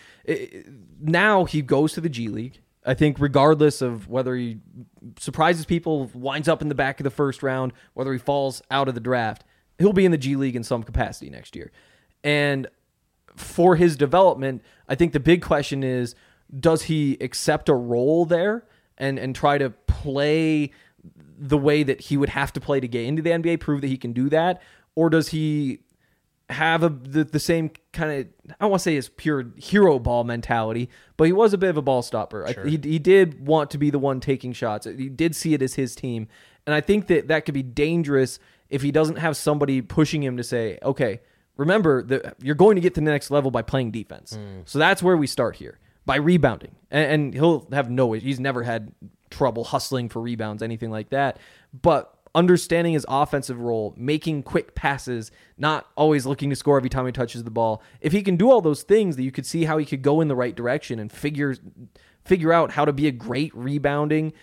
now he goes to the G League. I think regardless of whether he surprises people, winds up in the back of the first round, whether he falls out of the draft, he'll be in the G League in some capacity next year. And for his development, I think the big question is, does he accept a role there and try to play the way that he would have to play to get into the NBA, prove that he can do that? Or does he have the same kind of, I don't want to say his pure hero ball mentality, but he was a bit of a ball stopper. Sure. He did want to be the one taking shots. He did see it as his team. And I think that could be dangerous if he doesn't have somebody pushing him to say, okay, remember that you're going to get to the next level by playing defense. So that's where we start here, by rebounding. And he'll have he's never had trouble hustling for rebounds, anything like that. But understanding his offensive role, making quick passes, not always looking to score every time he touches the ball. If he can do all those things, that you could see how he could go in the right direction and figure out how to be a great rebounding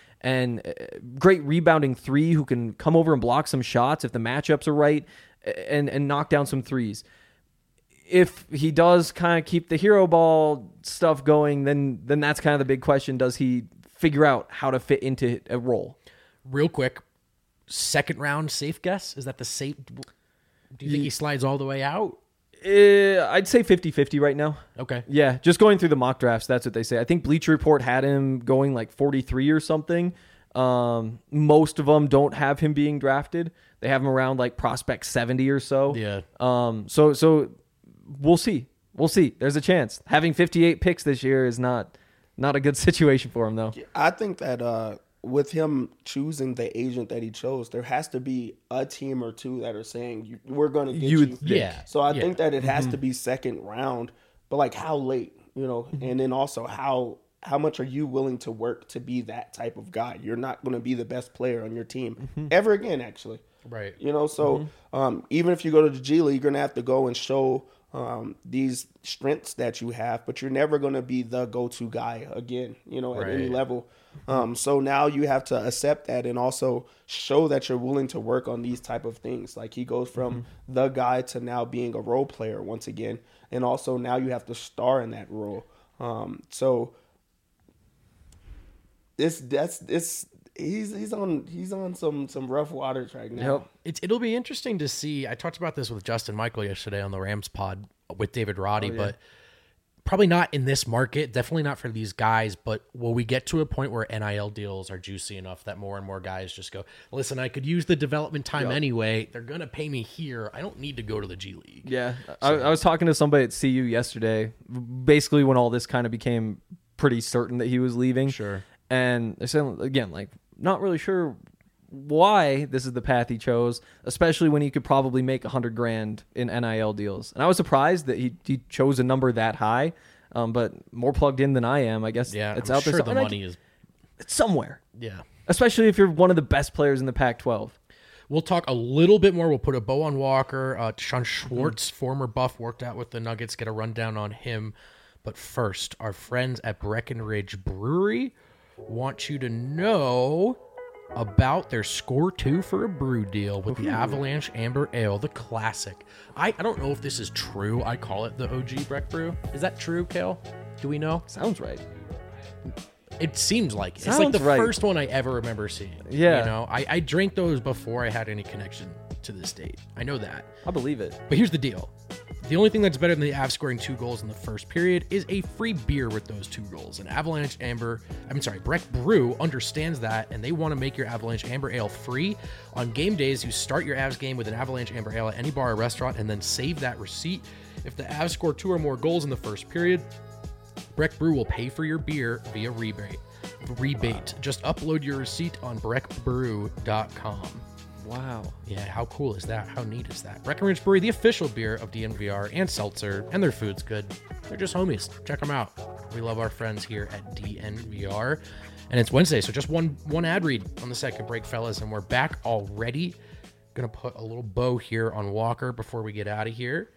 three who can come over and block some shots if the matchups are right and knock down some threes. If he does kind of keep the hero ball stuff going, then that's kind of the big question. Does he figure out how to fit into a role? Real quick, second round safe guess? Is that the safe? Do you think he slides all the way out? I'd say 50-50 right now. Okay. Yeah, just going through the mock drafts, that's what they say. I think Bleacher Report had him going like 43 or something. Most of them don't have him being drafted. They have him around like prospect 70 or so. Yeah. So we'll see. We'll see. There's a chance. Having 58 picks this year is not a good situation for him, though. I think that with him choosing the agent that he chose, there has to be a team or two that are saying, we're going to get you. Yeah. So I think that it has to be second round, but like how late, and then also how how much are you willing to work to be that type of guy? You're not going to be the best player on your team ever again, actually. Right. You know, so even if you go to the G League, you're going to have to go and show these strengths that you have, but you're never going to be the go-to guy again, you know, at any level. So now you have to accept that and also show that you're willing to work on these type of things. Like he goes from the guy to now being a role player once again. And also now you have to star in that role. So he's on some rough waters right now. Yep. It'll be interesting to see. I talked about this with Justin Michael yesterday on the Rams pod with David Roddy, but probably not in this market. Definitely not for these guys. But will we get to a point where NIL deals are juicy enough that more and more guys just go, listen, I could use the development time anyway. They're going to pay me here. I don't need to go to the G League. Yeah. I was talking to somebody at CU yesterday, basically when all this kind of became pretty certain that he was leaving. Sure. And they said, again, like, not really sure why this is the path he chose, especially when he could probably make $100,000 in NIL deals. And I was surprised that he chose a number that high, but more plugged in than I am. I guess Yeah, it's I'm out there. sure the money is. It's somewhere. Yeah. Especially if you're one of the best players in the Pac-12. We'll talk a little bit more. We'll put a bow on Walker. Deshaun Schwartz, former Buff, worked out with the Nuggets. Get a rundown on him. But first, our friends at Breckenridge Brewery want you to know about their Score 2 for a brew deal with the Avalanche Amber Ale, the classic. I don't know if this is true. I call it the OG Breck Brew. Is that true, Kale? Do we know? Sounds right. It seems like it. It's Sounds like the right. first one I ever remember seeing. Yeah. You know, I drank those before I had any connection to the state. I know that. I believe it. But here's the deal. The only thing that's better than the Avs scoring 2 goals in the first period is a free beer with those 2 goals. And Breck Brew understands that, and they want to make your Avalanche Amber Ale free. On game days, you start your Avs game with an Avalanche Amber Ale at any bar or restaurant, and then save that receipt. If the Avs score 2 or more goals in the first period, Breck Brew will pay for your beer via rebate. Just upload your receipt on breckbrew.com. Wow. Yeah, how cool is that? How neat is that? Breckenridge Brewery, the official beer of DNVR and Seltzer, and their food's good. They're just homies. Check them out. We love our friends here at DNVR. And it's Wednesday, so just one ad read on the second break, fellas, and we're back already. Gonna put a little bow here on Walker before we get out of here.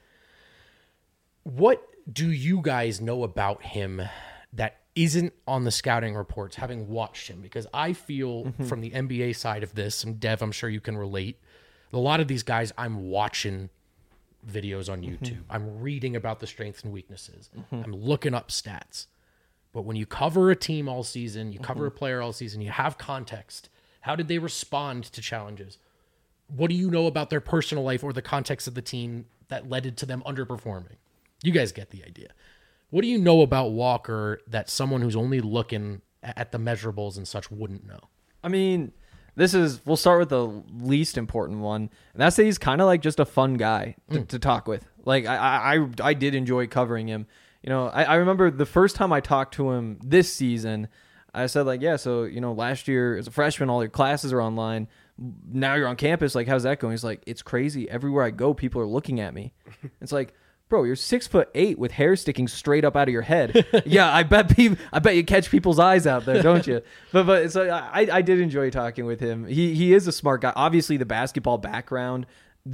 What do you guys know about him that isn't on the scouting reports, having watched him? Because I feel from the NBA side of this, and Dev, I'm sure you can relate, a lot of these guys, I'm watching videos on YouTube. I'm reading about the strengths and weaknesses. I'm looking up stats. But when you cover a team all season, you cover a player all season, you have context. How did they respond to challenges? What do you know about their personal life or the context of the team that led to them underperforming? You guys get the idea. What do you know about Walker that someone who's only looking at the measurables and such wouldn't know? I mean, we'll start with the least important one. And that's that he's kind of like just a fun guy to talk with. Like I did enjoy covering him. You know, I remember the first time I talked to him this season, I said like, yeah, so, you know, last year as a freshman, all your classes are online. Now you're on campus. Like, how's that going? He's like, it's crazy. Everywhere I go, people are looking at me. It's like, bro, you're 6'8" with hair sticking straight up out of your head. Yeah, I bet you catch people's eyes out there, don't you? But so I did enjoy talking with him. He is a smart guy. Obviously, the basketball background,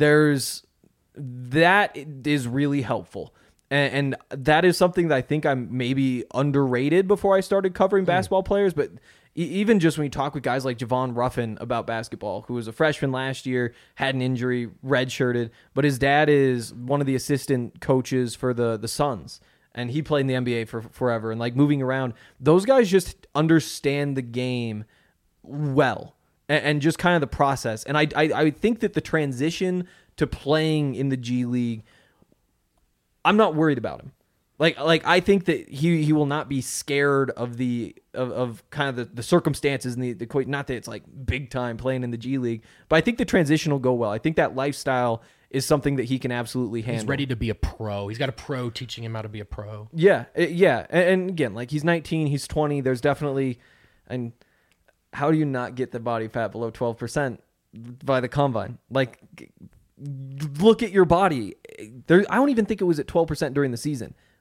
that is really helpful. And that is something that I think I'm maybe underrated before I started covering basketball players. But even just when you talk with guys like Javon Ruffin about basketball, who was a freshman last year, had an injury, redshirted, but his dad is one of the assistant coaches for the Suns, and he played in the NBA for forever. And like moving around, those guys just understand the game well and just kind of the process. And I think that the transition to playing in the G League, I'm not worried about him. Like I think that he will not be scared of kind of the circumstances and the not that it's like big time playing in the G League, but I think the transition will go well. I think that lifestyle is something that he can absolutely handle. He's ready to be a pro. He's got a pro teaching him how to be a pro. Yeah. And again, like he's 19, he's 20. There's definitely, and how do you not get the body fat below 12% by the combine? Like, look at your body. I don't even think it was at 12% during the season.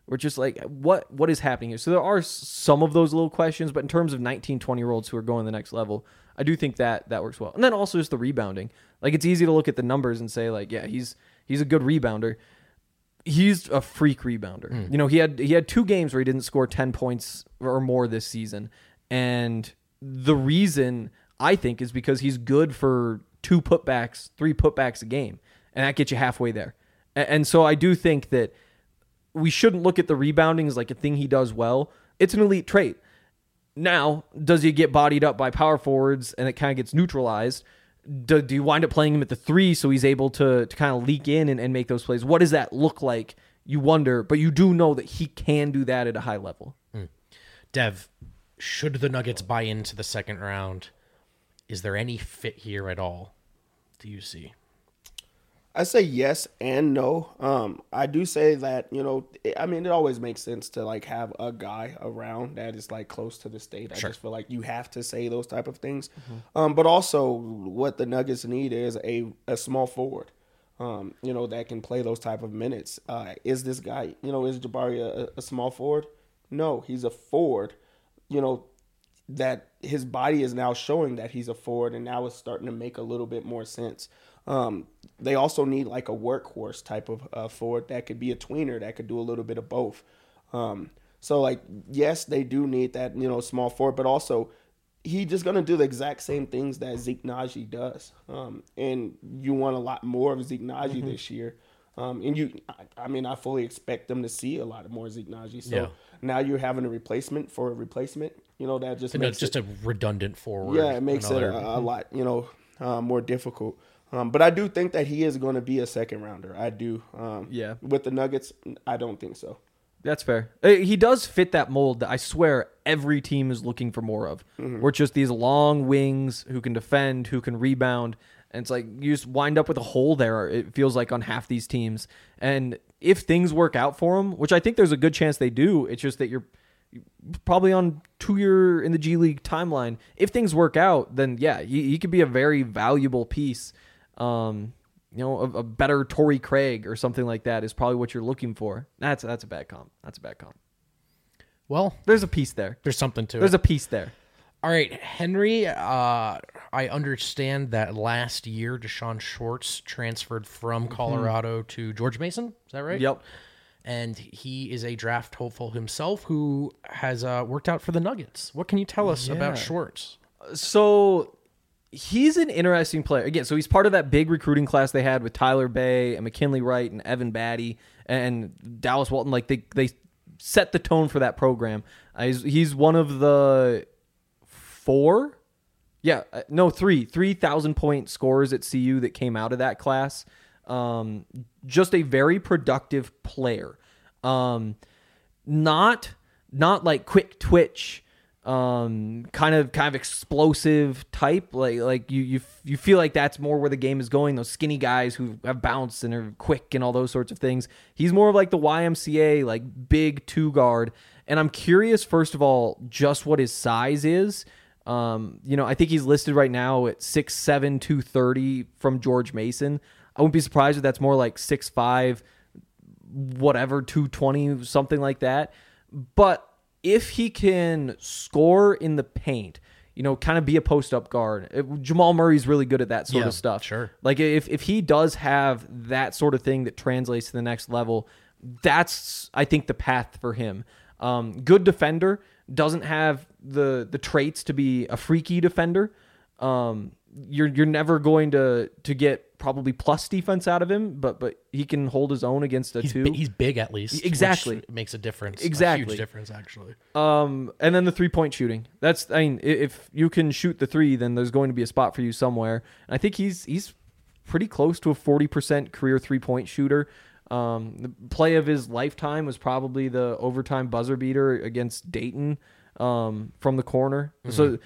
We're just like, what is happening here? So there are some of those little questions, but in terms of 19, 20-year-olds who are going to the next level, I do think that works well. And then also just the rebounding. Like, it's easy to look at the numbers and say, like, yeah, he's a good rebounder. He's a freak rebounder. You know, he had 2 games where he didn't score 10 points or more this season. And the reason, I think, is because he's good for 2 putbacks, 3 putbacks a game. And that gets you halfway there. And so I do think that we shouldn't look at the rebounding as like a thing he does well. It's an elite trait. Now, does he get bodied up by power forwards and it kind of gets neutralized? Do you wind up playing him at the 3 so he's able to kind of leak in and make those plays? What does that look like? You wonder, but you do know that he can do that at a high level. Dev, should the Nuggets buy into the second round, is there any fit here at all, do you see? I say yes and no. I do say that, you know, I mean, it always makes sense to like have a guy around that is like close to the state. I just feel like you have to say those type of things. But also what the Nuggets need is a small forward, you know, that can play those type of minutes. Is this guy, you know, is Jabari a small forward? No, he's a forward, you know, that his body is now showing that he's a forward, and now it's starting to make a little bit more sense. They also need like a workhorse type of forward that could be a tweener that could do a little bit of both. So like, yes, they do need that, you know, small forward, but also he's just going to do the exact same things that Zeke Naji does. And you want a lot more of Zeke Naji this year. I fully expect them to see a lot more Zeke Naji. So now you're having a replacement for a replacement, you know, that just makes just a redundant forward. Yeah, it makes it a lot, you know, more difficult. But I do think that he is going to be a second rounder. I do. With the Nuggets, I don't think so. That's fair. He does fit that mold that I swear every team is looking for more of. We're just these long wings who can defend, who can rebound. And it's like you just wind up with a hole there, it feels like, on half these teams. And if things work out for him, which I think there's a good chance they do, it's just that you're probably on 2-year in the G League timeline. If things work out, then yeah, he could be a very valuable piece. You know, a better Torrey Craig or something like that is probably what you're looking for. That's a bad comp. Well, there's a piece there. There's something to it. There's a piece there. All right, Henry, I understand that last year Deshaun Schwartz transferred from Colorado to George Mason. Is that right? Yep. And he is a draft hopeful himself who has worked out for the Nuggets. What can you tell us about Schwartz? So he's an interesting player. Again, so he's part of that big recruiting class they had with Tyler Bay and McKinley Wright and Evan Batty and Dallas Walton. Like they set the tone for that program. He's one of the 3,000-point scorers at CU that came out of that class. Just a very productive player. Not like quick twitch, kind of explosive type. Like you feel like that's more where the game is going. Those skinny guys who have bounce and are quick and all those sorts of things. He's more of like the YMCA, like big 2-guard. And I'm curious, first of all, just what his size is. You know, I think he's listed right now at 6'7", 230 from George Mason. I wouldn't be surprised if that's more like 6'5", whatever, 220, something like that. But if he can score in the paint, you know, kind of be a post-up guard. Jamal Murray's really good at that sort of stuff. Sure. Like if he does have that sort of thing that translates to the next level, that's, I think, the path for him. Good defender, doesn't have the traits to be a freaky defender. You're never going to get probably plus defense out of him, but he can hold his own against a 2. He's big at least. Exactly. Which makes a difference. Exactly. A huge difference, actually. And then the 3-point shooting. If you can shoot the 3, then there's going to be a spot for you somewhere. And I think he's pretty close to a 40% career 3-point shooter. The play of his lifetime was probably the overtime buzzer beater against Dayton from the corner. So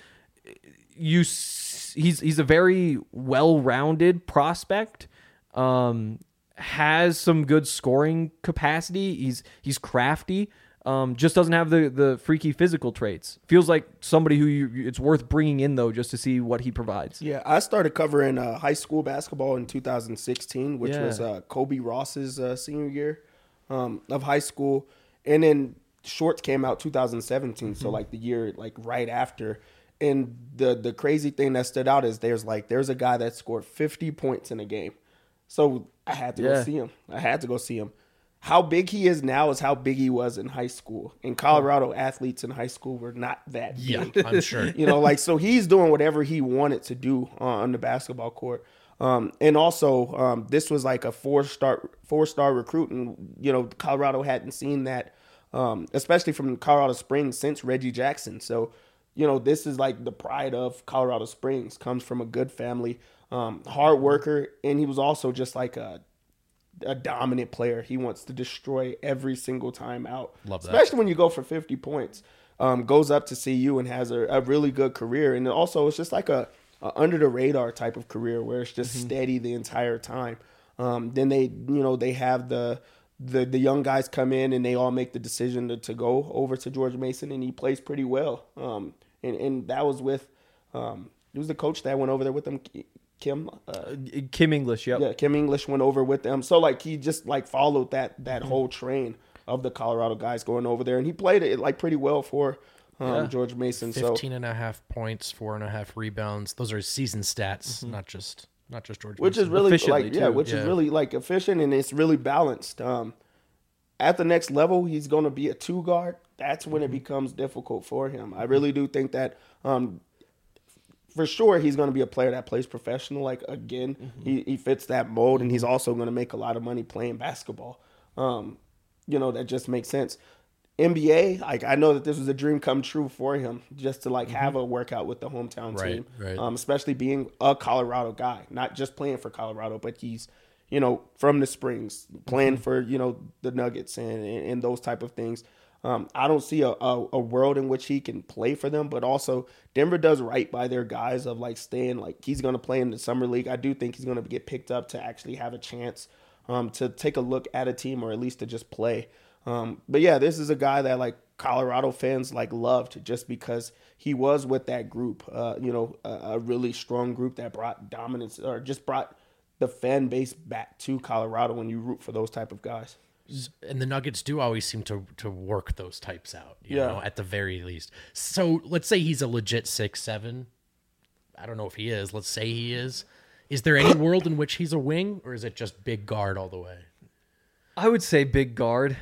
he's a very well-rounded prospect. Has some good scoring capacity. He's crafty. Just doesn't have the freaky physical traits. Feels like somebody who it's worth bringing in, though, just to see what he provides. Yeah, I started covering high school basketball in 2016, which was Kobe Ross's senior year of high school. And then Shorts came out 2017, so like the year like right after. And the crazy thing that stood out is there's a guy that scored 50 points in a game. So I had to go see him. I had to go see him. How big he is now is how big he was in high school. In Colorado, athletes in high school were not that big. Yeah, I'm sure. You know, like, so he's doing whatever he wanted to do on the basketball court. And also, this was like a four-star recruit, and, you know, Colorado hadn't seen that, especially from Colorado Springs since Reggie Jackson. So, you know, this is like the pride of Colorado Springs, comes from a good family, hard worker, and he was also just like a dominant player. He wants to destroy every single time out. Love that. Especially when you go for 50 points. Goes up to CU and has a really good career. And also it's just like a under the radar type of career where it's just steady the entire time. Then they have the young guys come in and they all make the decision to go over to George Mason, and he plays pretty well. And that was with it was the coach that went over there with them, Kim English. Yep. Yeah, Kim English went over with them. So like he just like followed that whole train of the Colorado guys going over there, and he played it like pretty well for George Mason. 15.5 points, 4.5 rebounds. Those are his season stats, not just George which Mason. is really Efficiently, like too. is really like efficient, and it's really balanced. At the next level, he's going to be a 2 guard. That's when it becomes difficult for him. I really do think that for sure he's going to be a player that plays professional. Like, again, he fits that mold, and he's also going to make a lot of money playing basketball. You know, that just makes sense. NBA, like, I know that this was a dream come true for him, just to like have a workout with the hometown team, right. Especially being a Colorado guy, not just playing for Colorado, but he's, you know, from the Springs, playing for, you know, the Nuggets and those type of things. I don't see a world in which he can play for them, but also Denver does right by their guys of like staying, like, he's going to play in the summer league. I do think he's going to get picked up to actually have a chance to take a look at a team, or at least to just play. But yeah, this is a guy that like Colorado fans like loved just because he was with that group, you know, a really strong group that brought dominance, or just brought the fan base back to Colorado when you root for those type of guys. And the Nuggets do always seem to work those types out, you know, at the very least. So let's say he's a legit 6'7". I don't know if he is. Let's say he is. Is there any world in which he's a wing, or is it just big guard all the way? I would say big guard.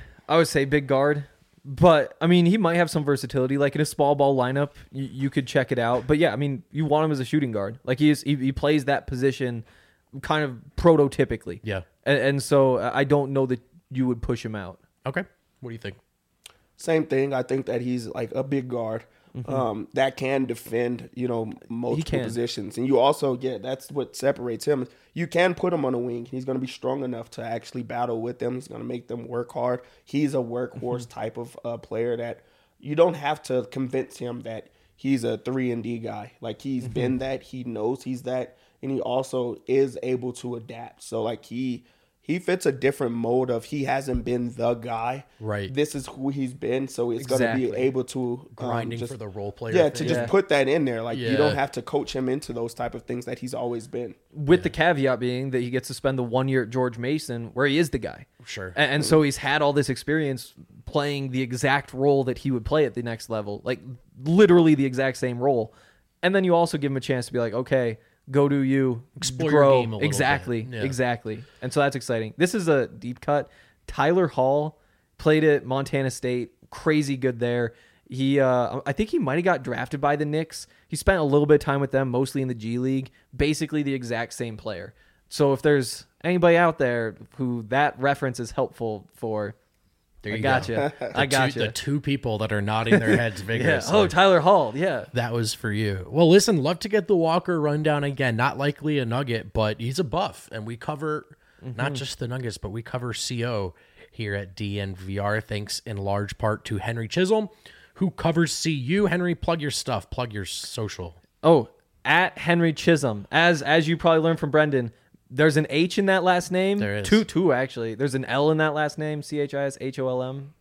But, I mean, he might have some versatility. Like, in a small ball lineup, you could check it out. But, yeah, I mean, you want him as a shooting guard. Like, he plays that position kind of prototypically. Yeah. And so I don't know that you would push him out. Okay. What do you think? Same thing. I think that he's like a big guard that can defend, you know, multiple positions. And you also get, that's what separates him. You can put him on a wing. He's going to be strong enough to actually battle with them. He's going to make them work hard. He's a workhorse type of player that you don't have to convince him that he's a 3-and-D guy. Like, he's been that. He knows he's that. And he also is able to adapt. So, like, he fits a different mold of, he hasn't been the guy. Right. This is who he's been, so it's going to be able to grinding for the role player. Yeah, thing. to just put that in there. Like, you don't have to coach him into those type of things that he's always been. With the caveat being that he gets to spend the 1 year at George Mason where he is the guy. Sure. And so he's had all this experience playing the exact role that he would play at the next level. Like, literally the exact same role. And then you also give him a chance to be like, okay, go do you, explore grow. your game a little exactly, bit. Yeah. Exactly. And so that's exciting. This is a deep cut. Tyler Hall played at Montana State, crazy good there. He, I think he might have got drafted by the Knicks. He spent a little bit of time with them, mostly in the G League. Basically the exact same player. So if there's anybody out there who that reference is helpful for, There you I gotcha. go. I gotcha. The two people that are nodding their heads Yeah. vigorously. Oh, Tyler Hall. Yeah. That was for you. Well, listen, love to get the Walker rundown again. Not likely a Nugget, but he's a buff. And we cover not just the Nuggets, but we cover CO here at DNVR, thanks in large part to Henry Chisholm, who covers CU. Henry, plug your stuff. Plug your social. Oh, at Henry Chisholm. As you probably learned from Brendan, there's an H in that last name. There is. Two actually. There's an L in that last name. CHISHOLM.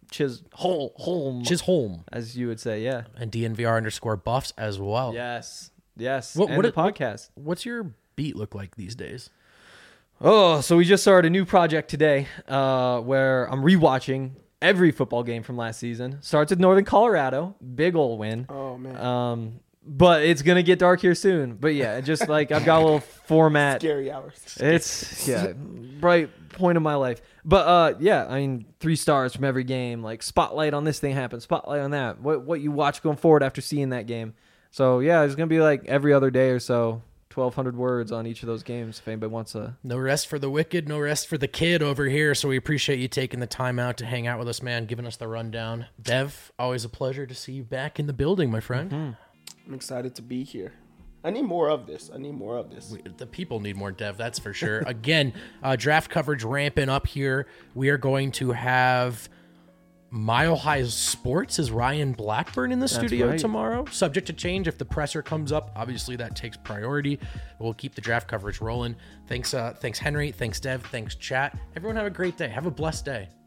Chisholm, as you would say. Yeah. and DNVR_buffs as well. Yes. Yes. What and the podcast. What's your beat look like these days? Oh, so we just started a new project today where I'm rewatching every football game from last season. Starts with Northern Colorado, big ol' win. Oh man. But it's gonna get dark here soon. But yeah, just like I've got a little format. Scary hours. It's bright point of my life. But yeah, I mean 3 stars from every game. Like spotlight on this thing happened, spotlight on that. What you watch going forward after seeing that game. So yeah, it's gonna be like every other day or so. 1,200 words on each of those games if anybody wants to. No rest for the wicked, no rest for the kid over here. So we appreciate you taking the time out to hang out with us, man, giving us the rundown. Dev, always a pleasure to see you back in the building, my friend. I'm excited to be here. I need more of this. The people need more Dev, that's for sure. Again, draft coverage ramping up here. We are going to have Mile High Sports is Ryan Blackburn in the studio tomorrow. Subject to change if the presser comes up. Obviously, that takes priority. We'll keep the draft coverage rolling. Thanks Henry. Thanks, Dev. Thanks, chat. Everyone have a great day. Have a blessed day.